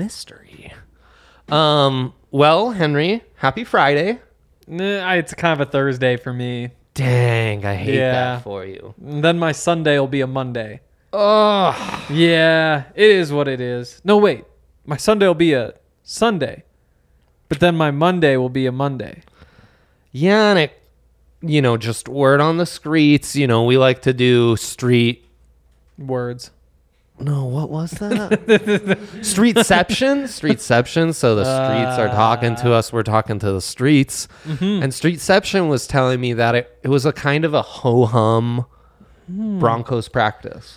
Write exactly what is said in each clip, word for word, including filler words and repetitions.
mystery. Um. Well, Henry, happy Friday. Nah, it's kind of a Thursday for me. Dang, I hate Yeah. that for you. And then my Sunday will be a Monday. Oh, Yeah, it is what it is. No, wait. My Sunday will be a Sunday. But then my Monday will be a Monday. yeah, and it, you know, just word on the streets. You know, we like to do street. Words. No, what was that? Streetception? Streetception. So the streets are talking to us. We're talking to the streets. Mm-hmm. And Streetception was telling me that it, it was a kind of a ho-hum Hmm. Broncos practice.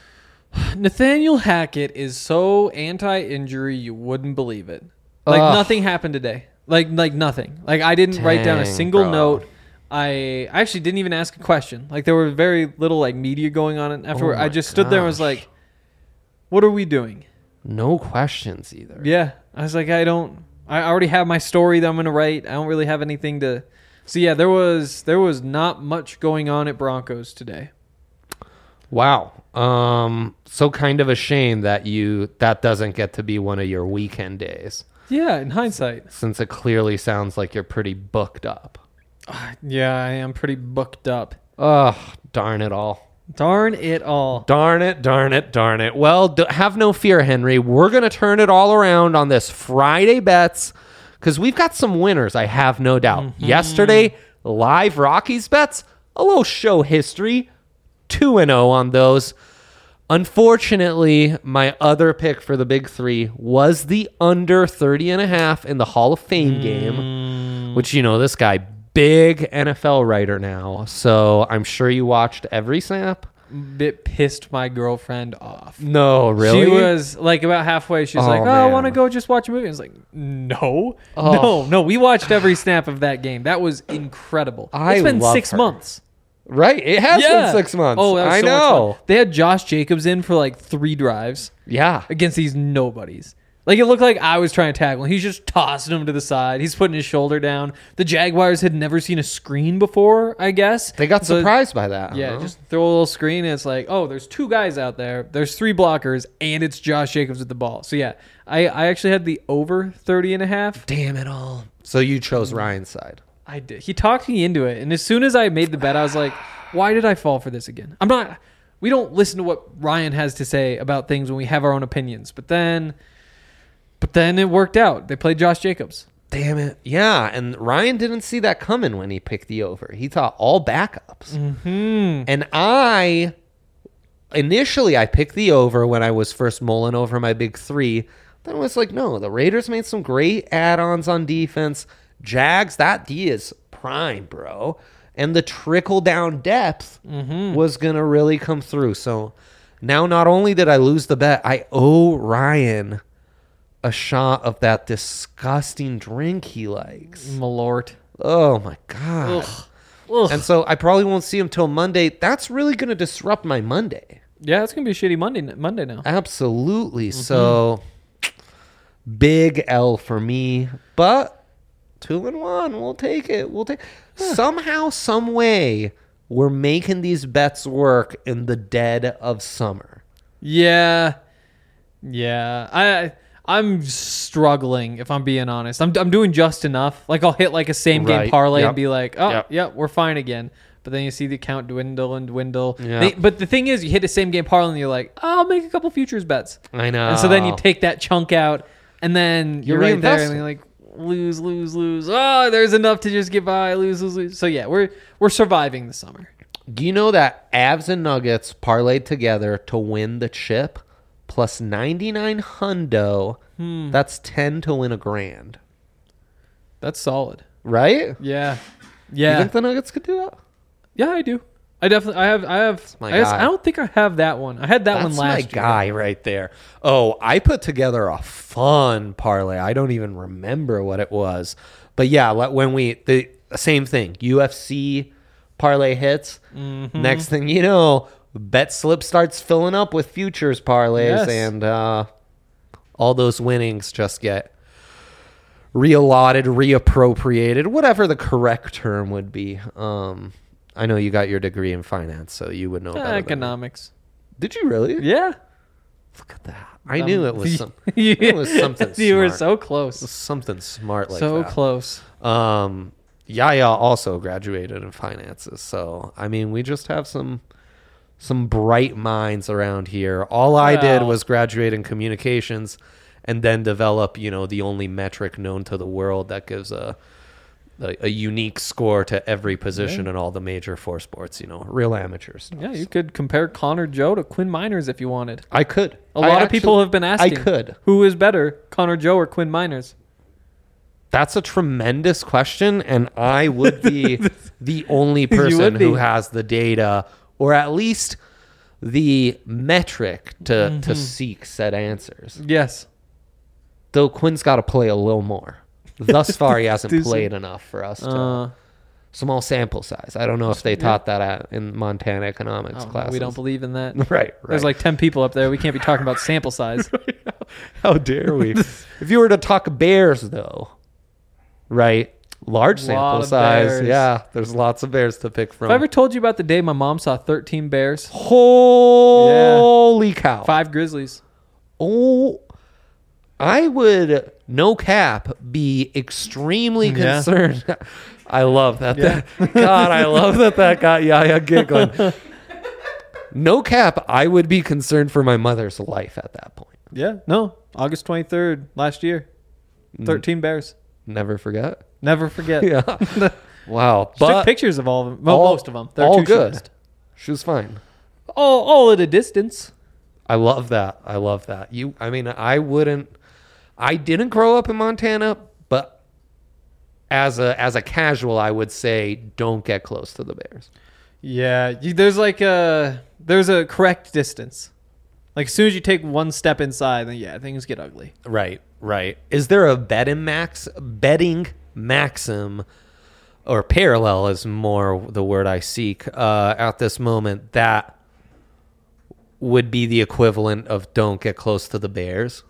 Nathaniel Hackett is so anti-injury you wouldn't believe it. Like Ugh. nothing happened today. Like like nothing. Like I didn't write down a Dang, single bro. note. I actually didn't even ask a question. Like there were very little like media going on, and afterward Oh my I just stood there and was gosh. like, "What are we doing?" No questions either. Yeah, I was like, I don't. I already have my story that I'm gonna write. I don't really have anything to. So yeah, there was there was not much going on at Broncos today. Wow. Um. So kind of a shame that you that doesn't get to be one of your weekend days, Yeah, in hindsight. since it clearly sounds like you're pretty booked up. Yeah, I am pretty booked up. Ugh, darn it all. Darn it all. Darn it, darn it, darn it. Well, d- have no fear, Henry. We're going to turn it all around on this Friday bets because we've got some winners, I have no doubt. Mm-hmm. Yesterday, live Rockies bets, a little show history, two and oh on those. Unfortunately, my other pick for the big three was the under thirty and a half in the Hall of Fame Mm. game, which, you know, this guy, big N F L writer now, so I'm sure you watched every snap. It pissed my girlfriend off. No, really? She was like about halfway. She was Oh, like, "Oh, I want to man. go just watch a movie." I was like, "No, Oh. no, no." We watched every snap of that game. That was incredible. I it's been love six her. months. Right? It has Yeah. been six months. Oh, that was I so much know. fun. They had Josh Jacobs in for like three drives Yeah. against these nobodies. Like it looked like I was trying to tackle him. He's just tossing him to the side. He's putting his shoulder down. The Jaguars had never seen a screen before, I guess. They got So- surprised by that. Yeah, huh? just throw a little screen and it's like, oh, there's two guys out there. There's three blockers and it's Josh Jacobs with the ball. So yeah, I, I actually had the over thirty and a half. Damn it all. So you chose Ryan's side. I did. He talked me into it. And as soon as I made the bet, I was like, why did I fall for this again? I'm not, we don't listen to what Ryan has to say about things when we have our own opinions. But then, but then it worked out. They played Josh Jacobs. Damn it. Yeah, and Ryan didn't see that coming when he picked the over. He thought all backups. Hmm. And I, initially, I picked the over when I was first mulling over my big three. Then I was like, no, the Raiders made some great add-ons on defense. Jags, that D is prime, bro. And the trickle-down depth was going to really come through. So now not only did I lose the bet, I owe Ryan a shot of that disgusting drink he likes. Malort. Oh, my God. Ugh. Ugh. And so I probably won't see him till Monday. That's really going to disrupt my Monday. Yeah, it's going to be a shitty Monday, Monday now. Absolutely. So big L for me, but two and one, we'll take it. We'll take somehow, some way, we're making these bets work in the dead of summer. Yeah. Yeah. I I'm struggling if I'm being honest. I'm I'm doing just enough. Like I'll hit like a same game Right. parlay Yep. and be like, "Oh, Yep. yeah, we're fine again." But then you see the account dwindle and dwindle. Yeah. They- but the thing is, you hit a same game parlay and you're like, oh, "I'll make a couple futures bets." I know. And so then you take that chunk out and then you're, You're right there reinvesting. and you're like, lose, lose, lose. Oh, there's enough to just get by. Lose, lose, lose. So yeah, we're we're surviving the summer. Do you know that Avs and Nuggets parlayed together to win the chip plus ninety-nine hundo? Hmm. That's ten to win a grand. That's solid. Right? Yeah. You Yeah. think the Nuggets could do that? Yeah, I do. I definitely. I have. I have. my I, guess, guy. I don't think I have that one. I had that That's one last my year. guy right there. Oh, I put together a fun parlay. I don't even remember what it was, but yeah, like when we the same thing. U F C parlay hits. Mm-hmm. Next thing you know, bet slip starts filling up with futures parlays, Yes. and uh, all those winnings just get reallotted, reappropriated, whatever the correct term would be. Um, I know you got your degree in finance, so you would know Uh, better than me. economics. Did you really? Yeah. Look at that. I Um, knew it was some. yeah. It was something. You were smart. so It was close. something smart like so that. close. Um, Yaya also graduated in finances, so I mean, we just have some some bright minds around here. All I did Well- was graduate in communications, and then develop, you know, the only metric known to the world that gives a a, a unique score to every position Yeah. in all the major four sports. You know, real amateur stuff. Yeah, you could compare Connor Joe to Quinn Miners if you wanted. I could. A I lot of actually- people have been asking. I could. Who is better, Connor Joe or Quinn Miners? That's a tremendous question, and I would be the only person would who be. has the data, or at least the metric to Mm-hmm. to seek said answers. Yes. Though Quinn's got to play a little more. Thus far, he hasn't Do some- played enough for us to. Uh, Small sample size. I don't know if they taught that at, in Montana economics oh, no, classes. we don't believe in that. Right, right. There's like ten people up there. We can't be talking about sample size. How dare we? If you were to talk bears, though, right? Large Lot sample of size. bears. Yeah, there's lots of bears to pick from. Have I ever told you about the day my mom saw thirteen bears, Holy cow. five grizzlies? Oh, I would, no cap, be extremely Yeah. concerned. I love that. that. God, I love that that got Yaya giggling. No cap, I would be concerned for my mother's life at that point. Yeah. No. August twenty-third last year. thirteen bears. Never forget. Never forget. Yeah. Wow. She But took pictures of all of them. Well, all- most of them. They're all too good. shortest. She was fine. All, all at a distance. I love that. I love that. You, I mean, I wouldn't, I didn't grow up in Montana, but as a, as a casual, I would say don't get close to the bears. Yeah. You, there's like a there's a correct distance. Like as soon as you take one step inside, then yeah, things get ugly. Right, right. Is there a betting max betting maxim or parallel is more the word I seek uh, at this moment that would be the equivalent of don't get close to the Bears?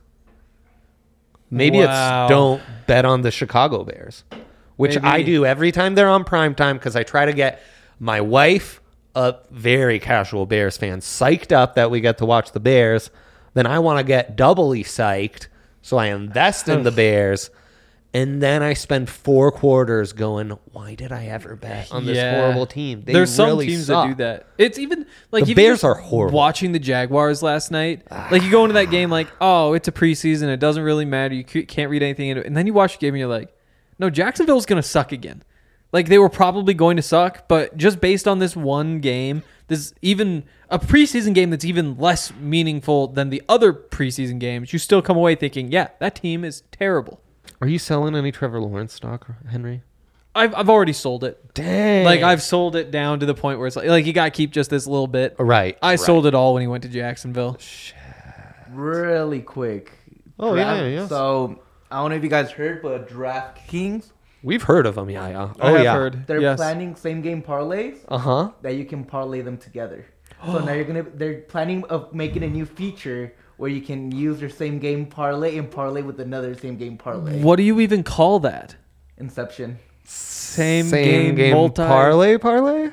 Maybe Wow. it's don't bet on the Chicago Bears, which Maybe. I do every time they're on prime time because I try to get my wife, a very casual Bears fan, psyched up that we get to watch the Bears. Then I want to get doubly psyched, so I invest in the Bears. And then I spend four quarters going, why did I ever bet on this Yeah. horrible team? They There's some really teams suck. that do that. It's even like The even Bears just are horrible. Watching the Jaguars last night, like you go into that game like, oh, it's a preseason. It doesn't really matter. You c- can't read anything into it. And then you watch the game and you're like, no, Jacksonville's gonna suck again. Like they were probably going to suck, but just based on this one game, this even a preseason game that's even less meaningful than the other preseason games, you still come away thinking, yeah, that team is terrible. Are you selling any Trevor Lawrence stock, Henry? I've I've already sold it. Dang. Like I've sold it down to the point where it's like, like you got to keep just this little bit. Right. I right. sold it all when he went to Jacksonville. Really quick. Oh, yeah, Draft- yeah, yeah. So I don't know if you guys heard, but DraftKings, We've heard of them, yeah, yeah. I Oh, have yeah. heard. they're yes. planning same game parlays Uh huh. that you can parlay them together. So now you're gonna they're planning of making a new feature where you can use your same game parlay and parlay with another same game parlay. What do you even call that? Inception. Same, game, multi parlay parlay.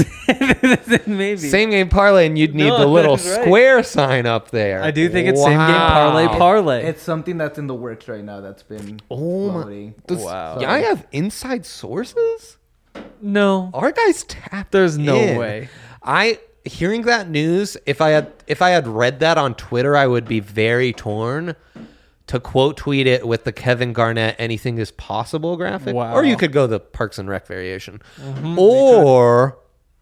Maybe. Same game parlay, and you'd need No, the little that's right. square sign up there. I do think it's same game parlay Wow. parlay. It's something that's in the works right now that's been Oh my! floating. Does Wow. I have inside sources? no, Our guys tapped. there's no in. way. I hearing that news. If I had if I had read that on Twitter, I would be very torn to quote tweet it with the Kevin Garnett "anything is possible" graphic. Wow. Or you could go the Parks and Rec variation, or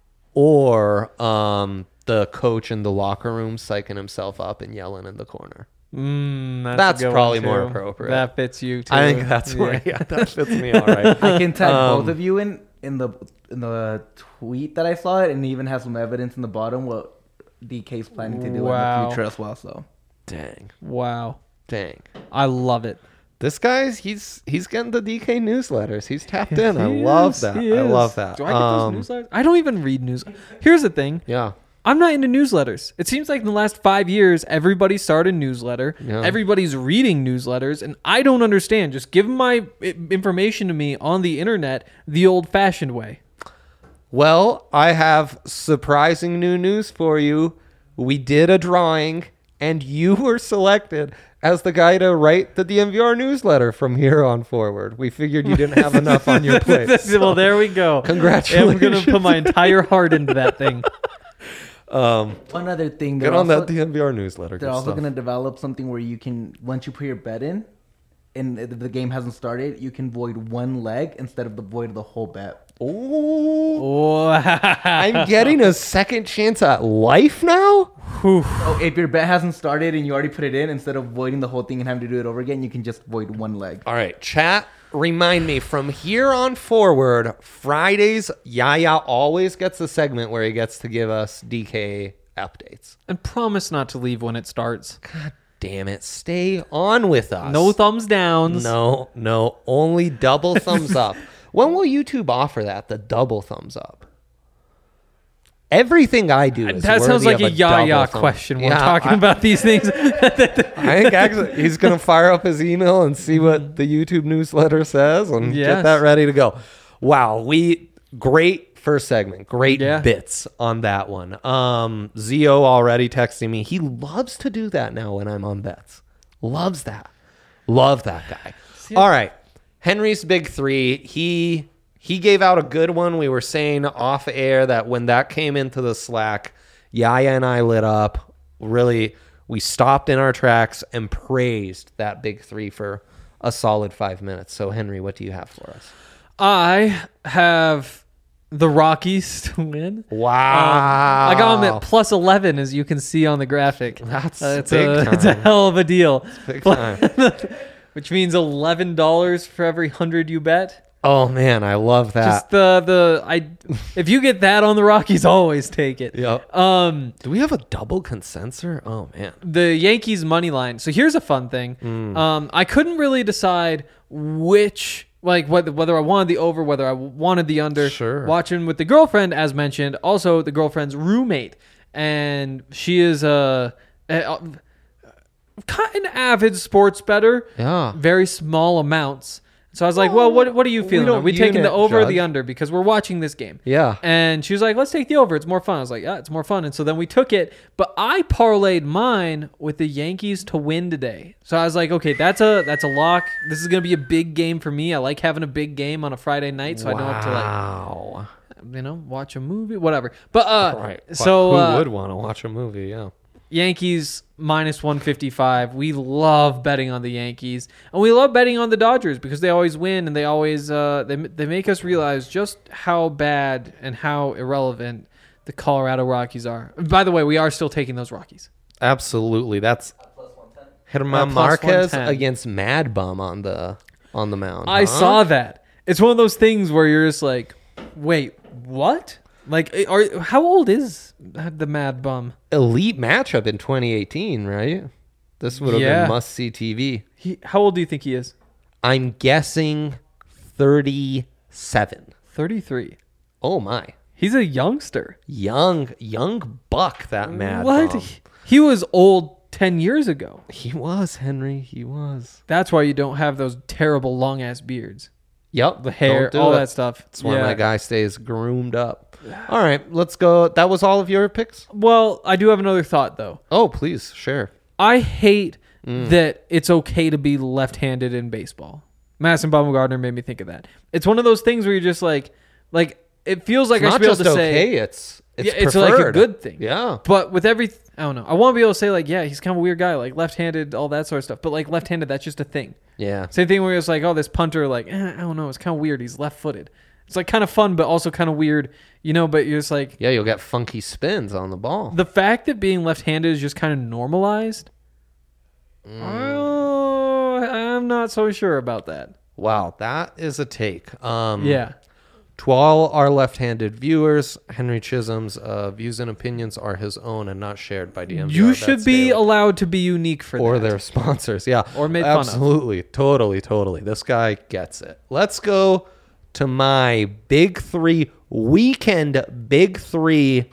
or um the coach in the locker room psyching himself up and yelling in the corner. Mm, that's a That's good probably one, more too. appropriate. That fits you too. I think that's Yeah. where yeah, that fits me all right. I can tag Um, both of you in in the in the tweet that I saw it, and it even has some evidence in the bottom what D K's planning to do Wow. in the future as well. So Dang, Wow, dang. I love it. This guy's he's he's getting the D K newsletters. He's tapped in. I He love is, that. he I is. love that. Do I get Um, those newsletters? I don't even read news. Here's the thing. Yeah. I'm not into newsletters. It seems like in the last five years, everybody started a newsletter. Yeah. Everybody's reading newsletters, and I don't understand. Just give my i- information to me on the internet the old-fashioned way. Well, I have surprising new news for you. We did a drawing, and you were selected as the guy to write the D M V R newsletter from here on forward. We figured you didn't have enough on your plate. so Well, there we go. Congratulations. I'm going to put my entire heart into that thing. Um, One other thing, get they're on also, that D M V R newsletter. they're Good also stuff. going to develop something where you can, once you put your bet in, and the the game hasn't started, you can void one leg instead of the void of the whole bet. Oh, Wow. I'm getting a second chance at life now? Oh, if your bet hasn't started and you already put it in, instead of voiding the whole thing and having to do it over again, you can just void one leg. All right, chat, remind me from here on forward, Fridays, Yaya always gets a segment where he gets to give us D K updates. And promise not to leave when it starts. God damn it. Stay on with us. No thumbs downs. No, no, only double thumbs up. When will YouTube offer that, the double thumbs up? Everything I do is That sounds worthy like of a double Yaya thumb- question. We're Yeah, talking I- about these things. I think actually he's going to fire up his email and see what the YouTube newsletter says and get Yes. that ready to go. Wow, we great first segment. Great Yeah. bits on that one. Um Zio already texting me. He loves to do that now when I'm on bets. Loves that. Love that guy. All right. Henry's big three. He he gave out a good one. We were saying off air that when that came into the Slack, Yaya and I lit up. Really, we stopped in our tracks and praised that big three for a solid five minutes. So, Henry, what do you have for us? I have the Rockies to win. Wow. Um, I got them at plus eleven, as you can see on the graphic. That's Uh, it's, big a, it's a time. hell of a deal. Big time. Which means eleven dollars for every one hundred you bet. Oh, man, I love that. Just the, the, I, if you get that on the Rockies, always take it. Yep. Um, Do we have a double consensor? Oh, man. the Yankees money line. So here's a fun thing. Hmm. Um, I couldn't really decide which, like whether whether I wanted the over, whether I wanted the under. Sure. Watching with the girlfriend, as mentioned, also the girlfriend's roommate, and she is a, a, a an avid sports bettor. Yeah. Very small amounts. So I was like, well, what what are you We feeling? don't Are we taking the unit over or the judge. under? Because we're watching this game. Yeah. And she was like, let's take the over. It's more fun. I was like, yeah, it's more fun. And so then we took it. But I parlayed mine with the Yankees to win today. So I was like, okay, that's a that's a lock. This is going to be a big game for me. I like having a big game on a Friday night. So I know what to like, Wow. you know, watch a movie, whatever. But uh, Right. so Who uh, would want to watch a movie? Yeah. Yankees minus one fifty-five. We love betting on the Yankees, and we love betting on the Dodgers because they always win, and they always uh, they they make us realize just how bad and how irrelevant the Colorado Rockies are. By the way, we are still taking those Rockies. Absolutely. That's German Uh, plus Marquez one ten. against Mad Bum on the on the mound. I huh? saw that. It's one of those things where you're just like, wait, what? Like, are how old is the Mad Bum? elite matchup in twenty eighteen, right? This would have Yeah. been must see T V. He, how old do you think he is? I'm guessing thirty-seven. thirty-three. Oh my. He's a youngster. Young young buck, that Mad What? Bum. He was old ten years ago. He was, Henry. He was. That's why you don't have those terrible long ass beards. Yep. The hair, don't do all it. that stuff. That's why Yeah. my guy stays groomed up. All right, let's go. That was all of your picks? Well, I do have another thought though. Oh, please, share. I hate Mm. that it's okay to be left-handed in baseball. Madison Bumgarner made me think of that. It's one of those things where you're just like, like it feels like It's I not should be able just to okay, say, it's it's yeah, it's like a preferred. good thing. Yeah. But with every, I don't know. I want to be able to say like, yeah, he's kind of a weird guy, like left-handed, all that sort of stuff. But like left-handed, that's just a thing. Yeah. Same thing where it's like, oh, this punter, like, eh, I don't know, it's kind of weird. He's left-footed. It's like kind of fun, but also kind of weird, you know. But you're just like, Yeah, you'll get funky spins on the ball. the fact that being left-handed is just kind of normalized. Mm. Oh, I'm not so sure about that. Wow, that is a take. Um, Yeah. To all our left-handed viewers, Henry Chisholm's uh, views and opinions are his own and not shared by D M V R You Bets should be Daily allowed to be unique for or that. their sponsors. Yeah, Or made fun of. absolutely, totally, totally. This guy gets it. Let's go to my big three weekend big three,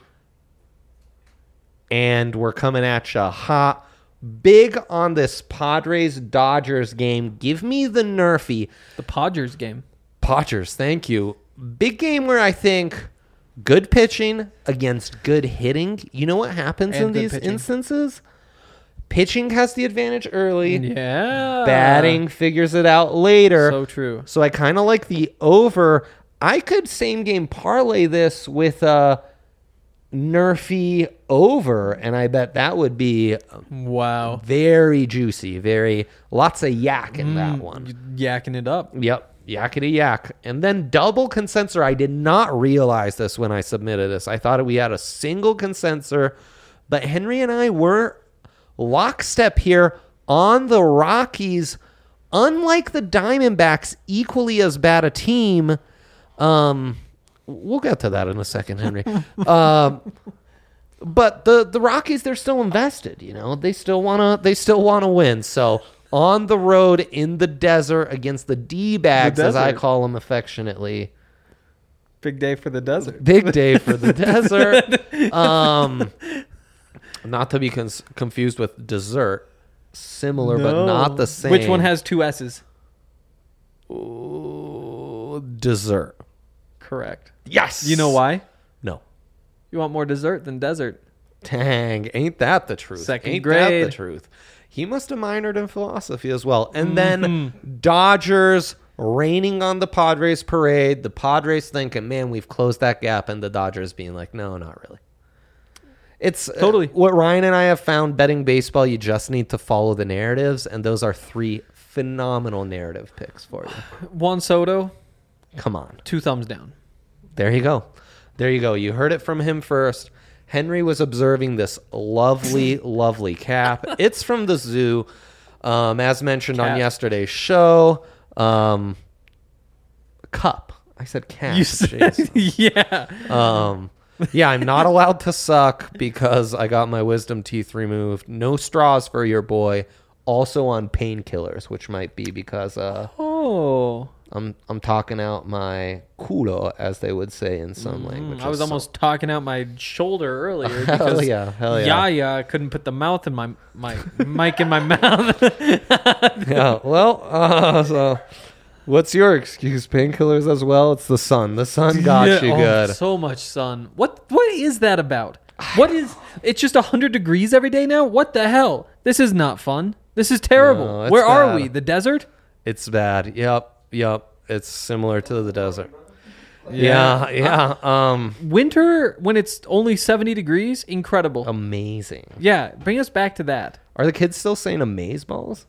and we're coming at you hot. Big on this Padres Dodgers game. Give me the Nerfy. The Podgers game. Padgers, thank you. Big game where I think good pitching against good hitting. You know what happens And in good these pitching. instances? Pitching has the advantage early. Yeah. Batting figures it out later. So true. So I kind of like the over. I could same game parlay this with a Nerfy over, and I bet that would be Wow. very juicy. Very lots of yak in that one. Yakking it up. Yep. Yakety yak. And then double consensor. I did not realize this when I submitted this. I thought we had a single consensor, but Henry and I were lockstep here on the Rockies. Unlike the Diamondbacks, equally as bad a team. Um, we'll get to that in a second, Henry. um, but the the Rockies, they're still invested. You know, they still wanna they still wanna win. So on the road in the desert against the D-bags, The as I desert. call them affectionately. Big day for the desert. Big day for the desert. Um, not to be cons- confused with dessert. Similar, but No. not the same. Which one has two S's? Ooh, dessert? Correct. Yes. You know why? No. You want more dessert than desert. Dang, ain't that the truth? Second ain't grade. that the truth? He must have minored in philosophy as well. And Mm-hmm. then Dodgers raining on the Padres parade. The Padres thinking, man, we've closed that gap. And the Dodgers being like, no, not really. It's uh, Totally. what Ryan and I have found betting baseball. You just need to follow the narratives. And those are three phenomenal narrative picks for you. Juan Soto, Come on. two thumbs down. There you go. There you go. You heard it from him first. Henry was observing this lovely, lovely cap. It's from the zoo, um, as mentioned on Cap. yesterday's show. Um, cup. I said cap. You said, yeah. Um, yeah, I'm not allowed to suck because I got my wisdom teeth removed. No straws for your boy. Also on painkillers, which might be because uh, Oh. I'm I'm talking out my culo, as they would say in some language. I was almost talking out my shoulder earlier Hell because yeah, hell yeah. Yaya couldn't put the mouth in my my mic in my mouth. Yeah. Well, uh, so what's your excuse? Painkillers as well. It's the sun. The sun got Yeah, you oh, good. So much sun. What what is that about? What is it's just one hundred degrees every day now? What the hell? This is not fun. This is terrible. No, it's Where are bad. we? The desert? It's bad. Yep. Yep. It's similar to the desert. Yeah. Yeah. Um. Winter when it's only seventy degrees? Incredible. Amazing. Yeah, bring us back to that. Are the kids still saying amaze balls?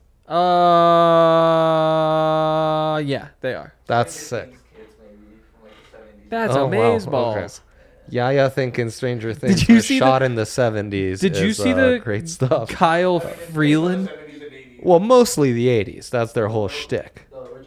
Uh yeah, they are. That's sick. That's Oh, wow. amaze balls. Okay. Yaya thinking Stranger Things. you was see shot the- in the seventies. Did you is, see uh, the great stuff? Kyle Freeland? Well, mostly the eighties. That's their whole shtick.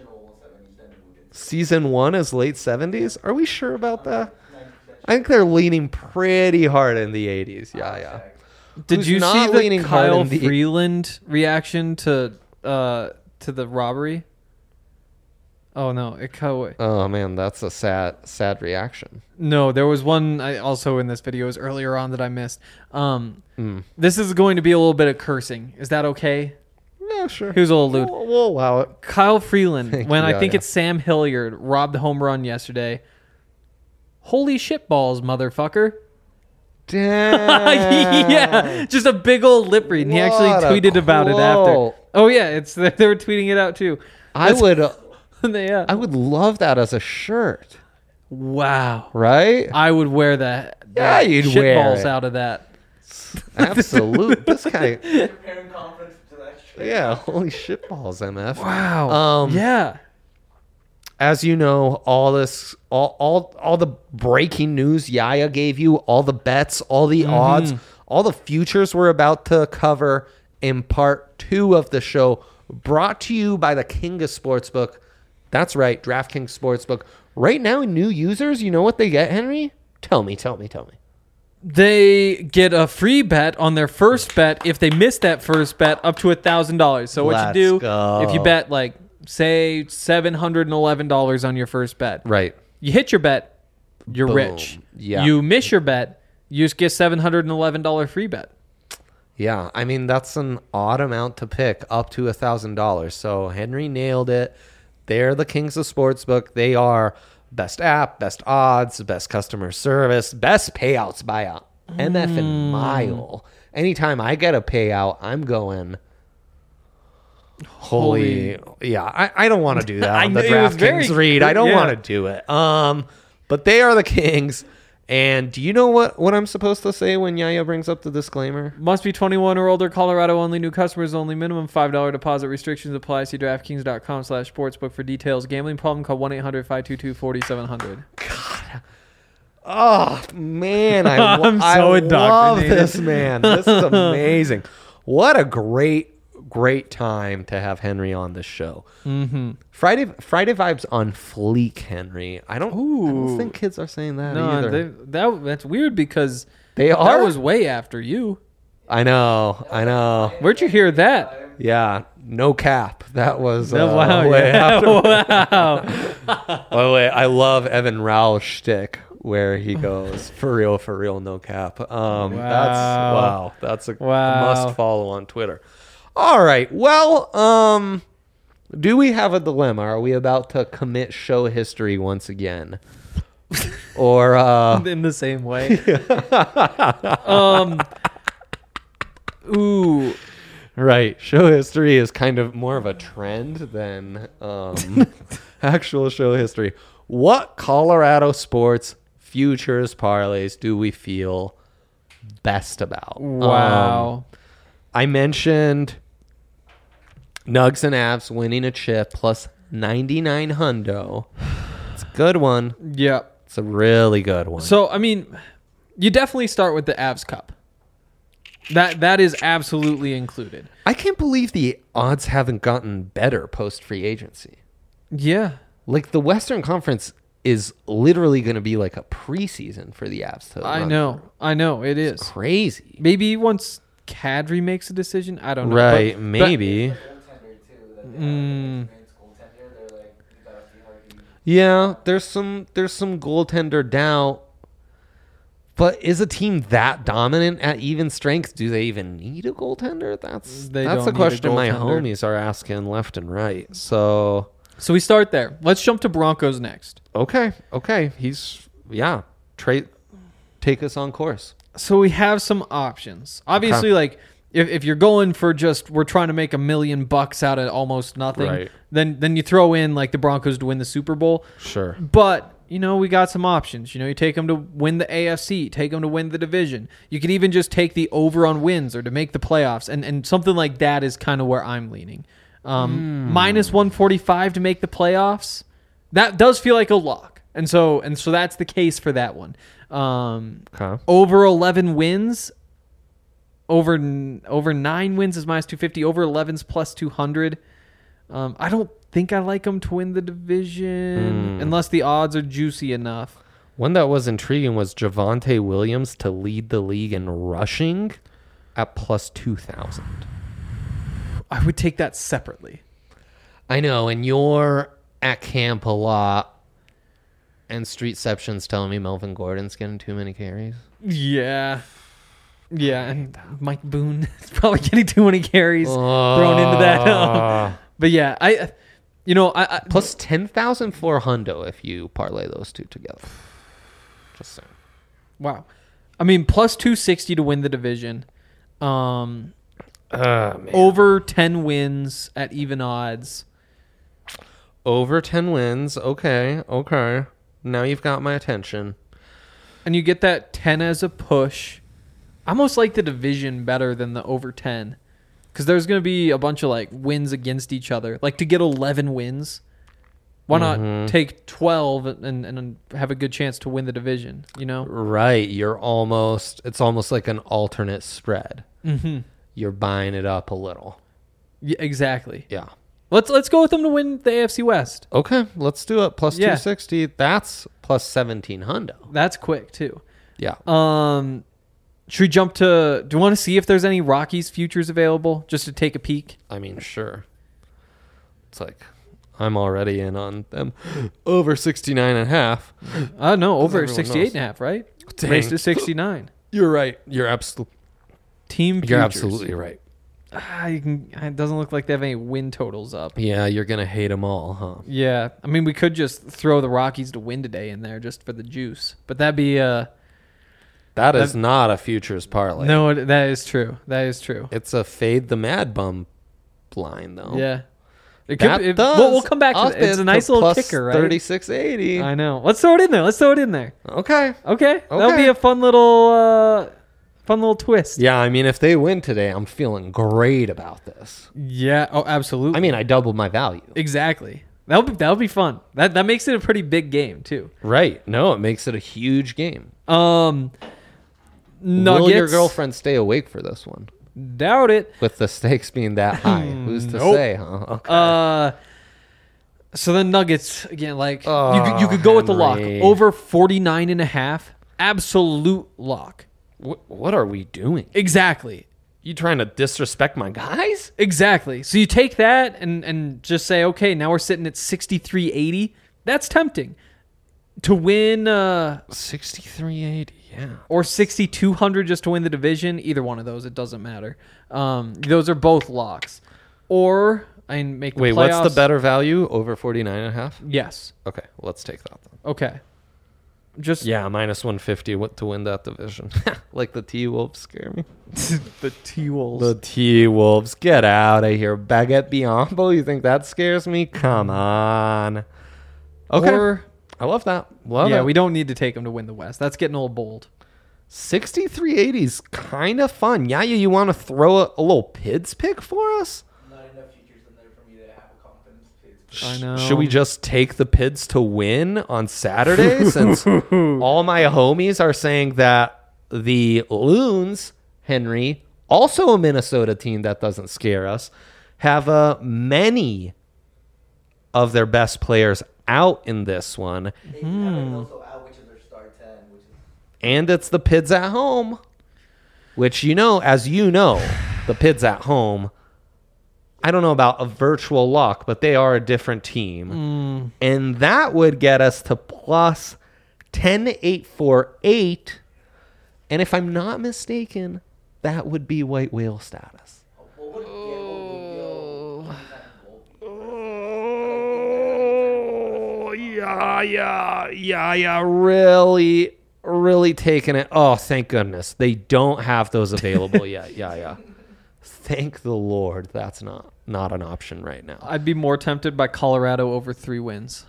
Season one is late seventies. Are we sure about that? I think they're leaning pretty hard in the eighties. Yeah, yeah. Did Who's you not see the leaning hard Kyle in the- Freeland reaction to uh to the robbery? Oh no, it cut away. Oh man, that's a sad, sad reaction. No, there was one I also in this video it was earlier on that I missed. Um, Mm. this is going to be a little bit of cursing. Is that okay? Yeah, sure. Here's a little lewd. We'll, we'll allow it. Kyle Freeland, Thank when you, I think yeah. it's Sam Hilliard, robbed the home run yesterday. Holy shit balls, motherfucker. Damn. Yeah, just a big old lip read. And he actually What a tweeted about it after. quote. Oh yeah, it's they were tweeting it out too. I would, yeah. I would love that as a shirt, Wow. right? I would wear that. Yeah, that you'd shit wear balls it. out of that. Absolute. This guy. Preparing conference to that shit. Yeah. Holy shit balls, M F. Wow. Um, yeah. As you know, all this, all, all, all the breaking news Yaya gave you, all the bets, all the odds, all the futures we're about to cover in part two of the show, brought to you by the King of Sportsbook. That's right, DraftKings Sportsbook. Right now, new users, you know what they get, Henry? Tell me, tell me, tell me. They get a free bet on their first bet if they miss that first bet up to a thousand dollars. So what Let's you do go. if you bet like say seven hundred and eleven dollars on your first bet, Right. you hit your bet, you're Boom. rich. Yeah. You miss your bet, you just get seven hundred and eleven dollar free bet. Yeah, I mean, that's an odd amount to pick, up to one thousand dollars. So Henry nailed it. They're the Kings of Sportsbook. They are best app, best odds, best customer service, best payouts by a M effing mile. Anytime I get a payout, I'm going. Holy, yeah. I, I don't want to do that I on the knew it was DraftKings very- read. I don't yeah. want to do it. Um, but they are the Kings. And do you know what, what I'm supposed to say when Yaya brings up the disclaimer? Must be twenty-one or older. Colorado only. New customers only. Minimum five dollars deposit. Restrictions apply. See DraftKings.com slash sportsbook for details. Gambling problem? Call one eight hundred five two two four seven zero zero. Oh man, I, lo- I'm so I love indoctrinated. this man. This is amazing. What a great, great time to have Henry on this show. Mm-hmm. Friday, Friday vibes on fleek, Henry. I don't, I don't Ooh. think kids are saying that No, either. they, that that's weird because They that are. was way after you. I know. I know. Where'd you hear that? Yeah. No cap. That was uh, No, wow, way yeah. after. Wow. By the way, I love Evan Rao's shtick where he goes for real, for real, no cap. Um, That's Wow. wow. That's a Wow. must follow on Twitter. All right. Well, um, do we have a dilemma? Are we about to commit show history once again, or uh, In the same way. um. Ooh. right? Show history is kind of more of a trend than um, actual show history. What Colorado sports futures parlays do we feel best about? Wow. Um, I mentioned Nugs and Avs winning a chip plus ninety-nine hundo. It's a good one. Yeah. It's a really good one. So I mean, you definitely start with the Avs Cup. That that is absolutely included. I can't believe the odds haven't gotten better post free agency. Yeah. Like the Western Conference is literally going to be like a preseason for the Avs. To I run know. through. I know. It is. It's crazy. Maybe once Kadri makes a decision. I don't know. Right, But- maybe. Mm. Yeah, there's some there's some goaltender doubt. But is a team that dominant at even strength? Do they even need a goaltender? That's They that's don't the need a question my goaltender. homies are asking left and right. So So we start there. Let's jump to Broncos next. okay, okay, he's yeah. Trade, take us on course. So we have some options. Obviously, like if, if you're going for just we're trying to make a million bucks out of almost nothing, Right. then then you throw in like the Broncos to win the Super Bowl. Sure. But you know we got some options. You know you take them to win the A F C, take them to win the division. You could even just take the over on wins or to make the playoffs, and and something like that is kind of where I'm leaning. Um, minus one forty-five to make the playoffs. That does feel like a lock, and so and so that's the case for that one. Um, Okay. over eleven wins. Over n- over nine wins is minus two fifty. Over eleven's plus two hundred. Um, I don't think I like them to win the division Mm. unless the odds are juicy enough. One that was intriguing was Javonte Williams to lead the league in rushing at plus two thousand. I would take that separately. I know, and you're at camp a lot, and Streetception's telling me Melvin Gordon's getting too many carries. Yeah. Yeah, and Mike Boone is probably getting too many carries thrown into that. Uh, But yeah, I, you know, I, I plus ten thousand for hundo if you parlay those two together. Just saying. wow. I mean, plus two sixty to win the division. Um, Uh, man. over ten wins at even odds. Over ten wins. Okay, okay. Now you've got my attention. And you get that ten as a push. I almost like the division better than the over ten. Because there's going to be a bunch of like wins against each other. Like to get eleven wins, why not Mhm. take twelve and, and have a good chance to win the division, you know? Right, you're almost, it's almost like an alternate spread. Mm-hmm. You're buying it up a little. Yeah, exactly. Yeah. Let's let's go with them to win the A F C West. Okay, let's do it. Plus Yeah. two sixty. That's plus seventeen hundo. That's quick too. Yeah. Um, should we jump to? Do you want to see if there's any Rockies futures available, just to take a peek? I mean, sure. It's like, I'm already in on them. Over sixty-nine and a half. Uh no, over everyone sixty-eight knows. and a half, right? Dang. Raised to sixty-nine. You're right. You're absolutely. Team futures. You're absolutely right. Ah, you can, it doesn't look like they have any win totals up. Yeah, you're gonna hate them all, huh? Yeah, I mean we could just throw the Rockies to win today in there just for the juice, but that'd be uh That is That- not a futures parlay. No, it- that is true. That is true. It's a fade the mad bum line, though. Yeah. It That it- does we'll, we'll come back to up that. It's it a nice to little plus kicker, right? thirty-six eighty. I know. Let's throw it in there. Let's throw it in there. Okay. Okay. That'll Okay. be a fun little uh fun little twist. Yeah, I mean, if they win today, I'm feeling great about this. Yeah. Oh, absolutely. I mean, I doubled my value. exactly. That'll be that'll be fun. That that makes it a pretty big game too. Right. No, it makes it a huge game. Um Nuggets. Will your girlfriend stay awake for this one? Doubt it. With the stakes being that high. Who's to Nope. say, huh? Okay. Uh so the Nuggets again, like Oh, you could, you could go with the lock Henry. over forty-nine and a half. Absolute lock. What, what are we doing? Exactly. You trying to disrespect my guys? Exactly. So you take that and and just say, okay, now we're sitting at sixty-three eighty. That's tempting. To win uh sixty-three eighty, yeah. or sixty-two hundred just to win the division, either one of those, it doesn't matter. Um those are both locks. Or I make the Wait, playoffs. what's the better value? Over forty-nine and a half? Yes. Okay, let's take that then. Okay. Just Yeah, minus one fifty what to win that division. Like the T-Wolves scare me. the T-Wolves. The T-Wolves, get out of here. Baguette Biombo, you think that scares me? Come on. Okay, Or, I love that. Love yeah, it. we don't need to take them to win the West. That's getting a little bold. sixty-three eighty is kind of fun. Yeah, you, you want to throw a, a little P I D S pick for us? Not enough futures in there for me to have a confidence pick. I know. Should we just take the P I D S to win on Saturday since all my homies are saying that the Loons, Henry, also a Minnesota team that doesn't scare us, have uh, many of their best players out in this one. They have it also out, which is their star ten, which is And it's the P I D S at home, which, you know, as you know, the P I D S at home, I don't know about a virtual lock, but they are a different team. And that would get us to plus ten eight forty-eight. And if I'm not mistaken, that would be white whale status. what would oh. Oh, yeah, yeah, yeah, yeah. Really, really taking it. Oh, thank goodness. They don't have those available yet. Yeah, yeah. Thank the Lord. That's not, not an option right now. I'd be more tempted by Colorado over three wins.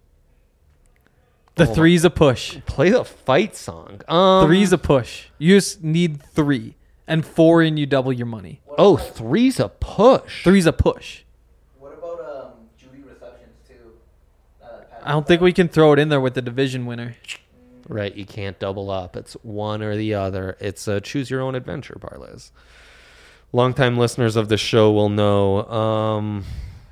The Oh my- three's a push. Play the fight song. Um, Three's a push. You just need three. And four and you double your money. Oh, three's a push. Three's a push. What about um Judy receptions too? Uh, I don't think we can throw it in there with the division winner. Right, you can't double up. It's one or the other. It's a choose your own adventure parlays. Longtime listeners of the show will know. Um,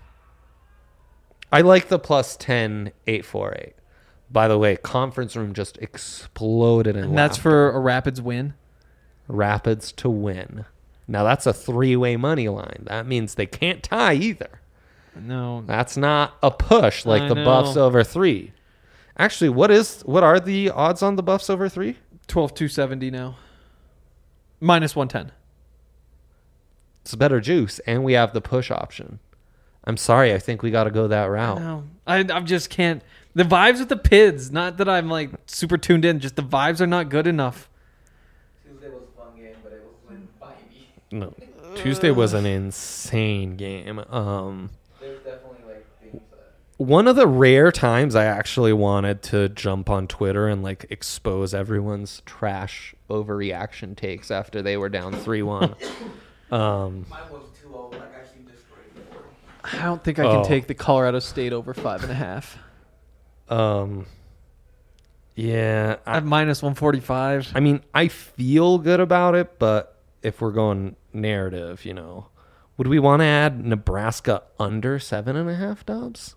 I like the plus ten eight forty-eight. By the way, conference room just exploded in And that's laughter. for a Rapids win. Rapids to win. Now that's a three-way money line. That means they can't tie either. No. That's not a push like I the know. Buffs over three. Actually, what is what are the odds on the Buffs over three? twelve two seventy now. Minus one ten. It's better juice, and we have the push option. I'm sorry, I think we got to go that route. No. I I just can't. The vibes with the P I D S, not that I'm like super tuned in, just the vibes are not good enough. Tuesday was a fun game, but it was win by me. No, Tuesday was an insane game. Um, There's definitely like things that one of the rare times I actually wanted to jump on Twitter and like expose everyone's trash overreaction takes after they were down three one. um, mine was two oh, like I actually destroyed before. I don't think I can Oh. take the Colorado State over five and a half. um, yeah, I, At minus one forty-five. I mean, I feel good about it, but if we're going narrative, you know, would we want to add Nebraska under seven and a half dubs?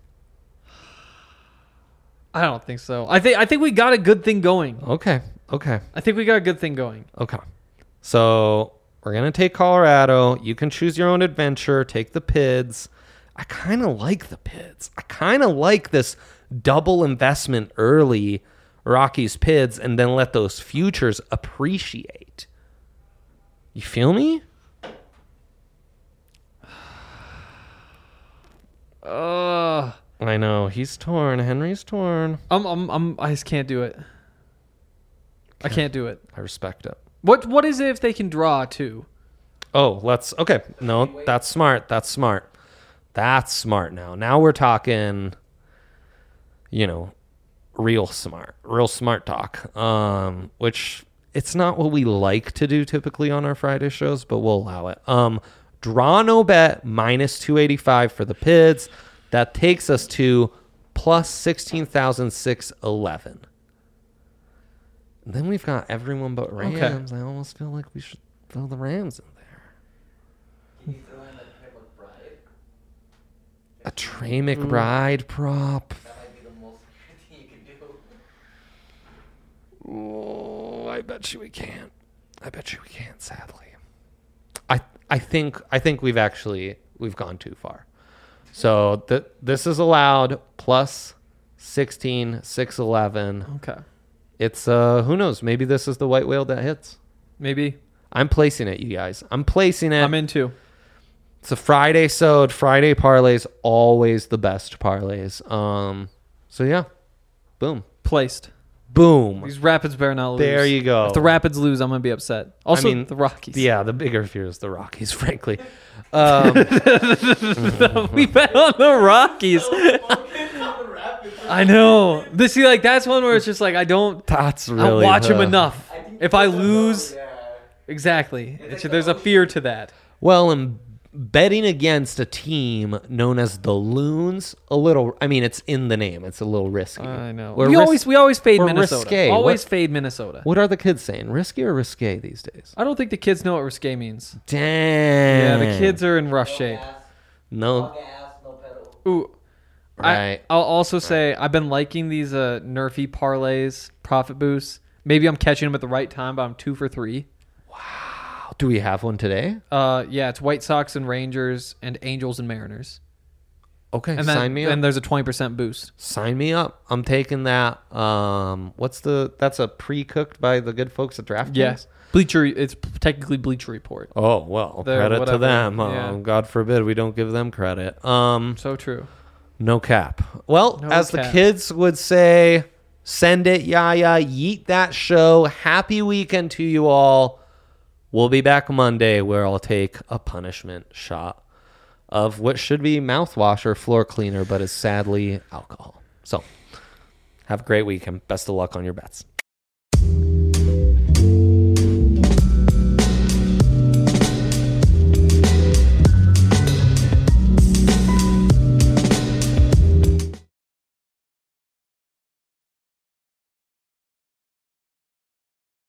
I don't think so. I think I think we got a good thing going. Okay, okay, I think we got a good thing going. okay. So we're gonna take Colorado. You can choose your own adventure. Take the P I D S. I kind of like the P I D S. I kind of like this double investment early Rockies P I D S and then let those futures appreciate. You feel me? Uh, I know he's torn. Henry's torn. I'm, I'm, I'm, I just can't do it. I can't do it. I respect it. What What is it if they can draw too? Oh, let's okay. No, that's smart. That's smart. That's smart now. Now we're talking, you know, real smart. Real smart talk. Um, which it's not what we like to do typically on our Friday shows, but we'll allow it. Um, draw no bet minus two eighty-five for the P I Ds. That takes us to plus sixteen thousand six hundred eleven. Then we've got everyone but Rams. Okay. I almost feel like we should throw the Rams in there. Can you throw in that type of bride? A Trey McBride prop. That might be the most thing you can do. Oh, I bet you we can't. I bet you we can't. Sadly, I I think I think we've actually we've gone too far. So th- this is allowed plus sixteen six eleven. Okay. It's uh who knows? Maybe this is the white whale that hits. Maybe. I'm placing it, you guys. I'm placing it. I'm into. It's a Friday sewed. Friday parlays always the best parlays. Um. So yeah, boom, Placed. boom. These Rapids better not lose. There you go. If the Rapids lose, I'm gonna be upset. Also, I mean, the Rockies. Yeah, the bigger fear is the Rockies, frankly. Um, we bet on the Rockies. I know. This see, like that's one where it's just like I don't. that's I really. don't watch the- him enough. I think If I it's a no, lose, yeah. exactly. It's It's, like there's the a fear to that. Well, and betting against a team known as the Loons, a little. I mean, it's in the name. It's a little risky. I know. We're we ris- always we always fade we're Minnesota. risque. Always What- fade Minnesota. What are the kids saying? Risky or risque these days? I don't think the kids know what risque means. Damn. Yeah, the kids are in rough No shape. gas, No. no gas, no pedal. Ooh. Right. I, I'll also say I've been liking these uh, nerfy parlays, profit boosts. Maybe I'm catching them at the right time, but I'm two for three. Do we have one today? Uh, yeah, it's White Sox and Rangers and Angels and Mariners. Okay, And sign then me up. and there's a twenty percent boost. Sign me up. I'm taking that. Um, what's the? That's a pre-cooked by the good folks at DraftKings. Yes. Bleacher, it's technically Bleacher Report. Oh well, They're credit to whatever, them. Oh, yeah. God forbid we don't give them credit. Um, So true. no cap. Well, No as the cap. kids would say, send it, yaya, yeet that show. Happy weekend to you all. We'll be back Monday where I'll take a punishment shot of what should be mouthwash or floor cleaner, but is sadly alcohol. So, have a great weekend. Best of luck on your bets.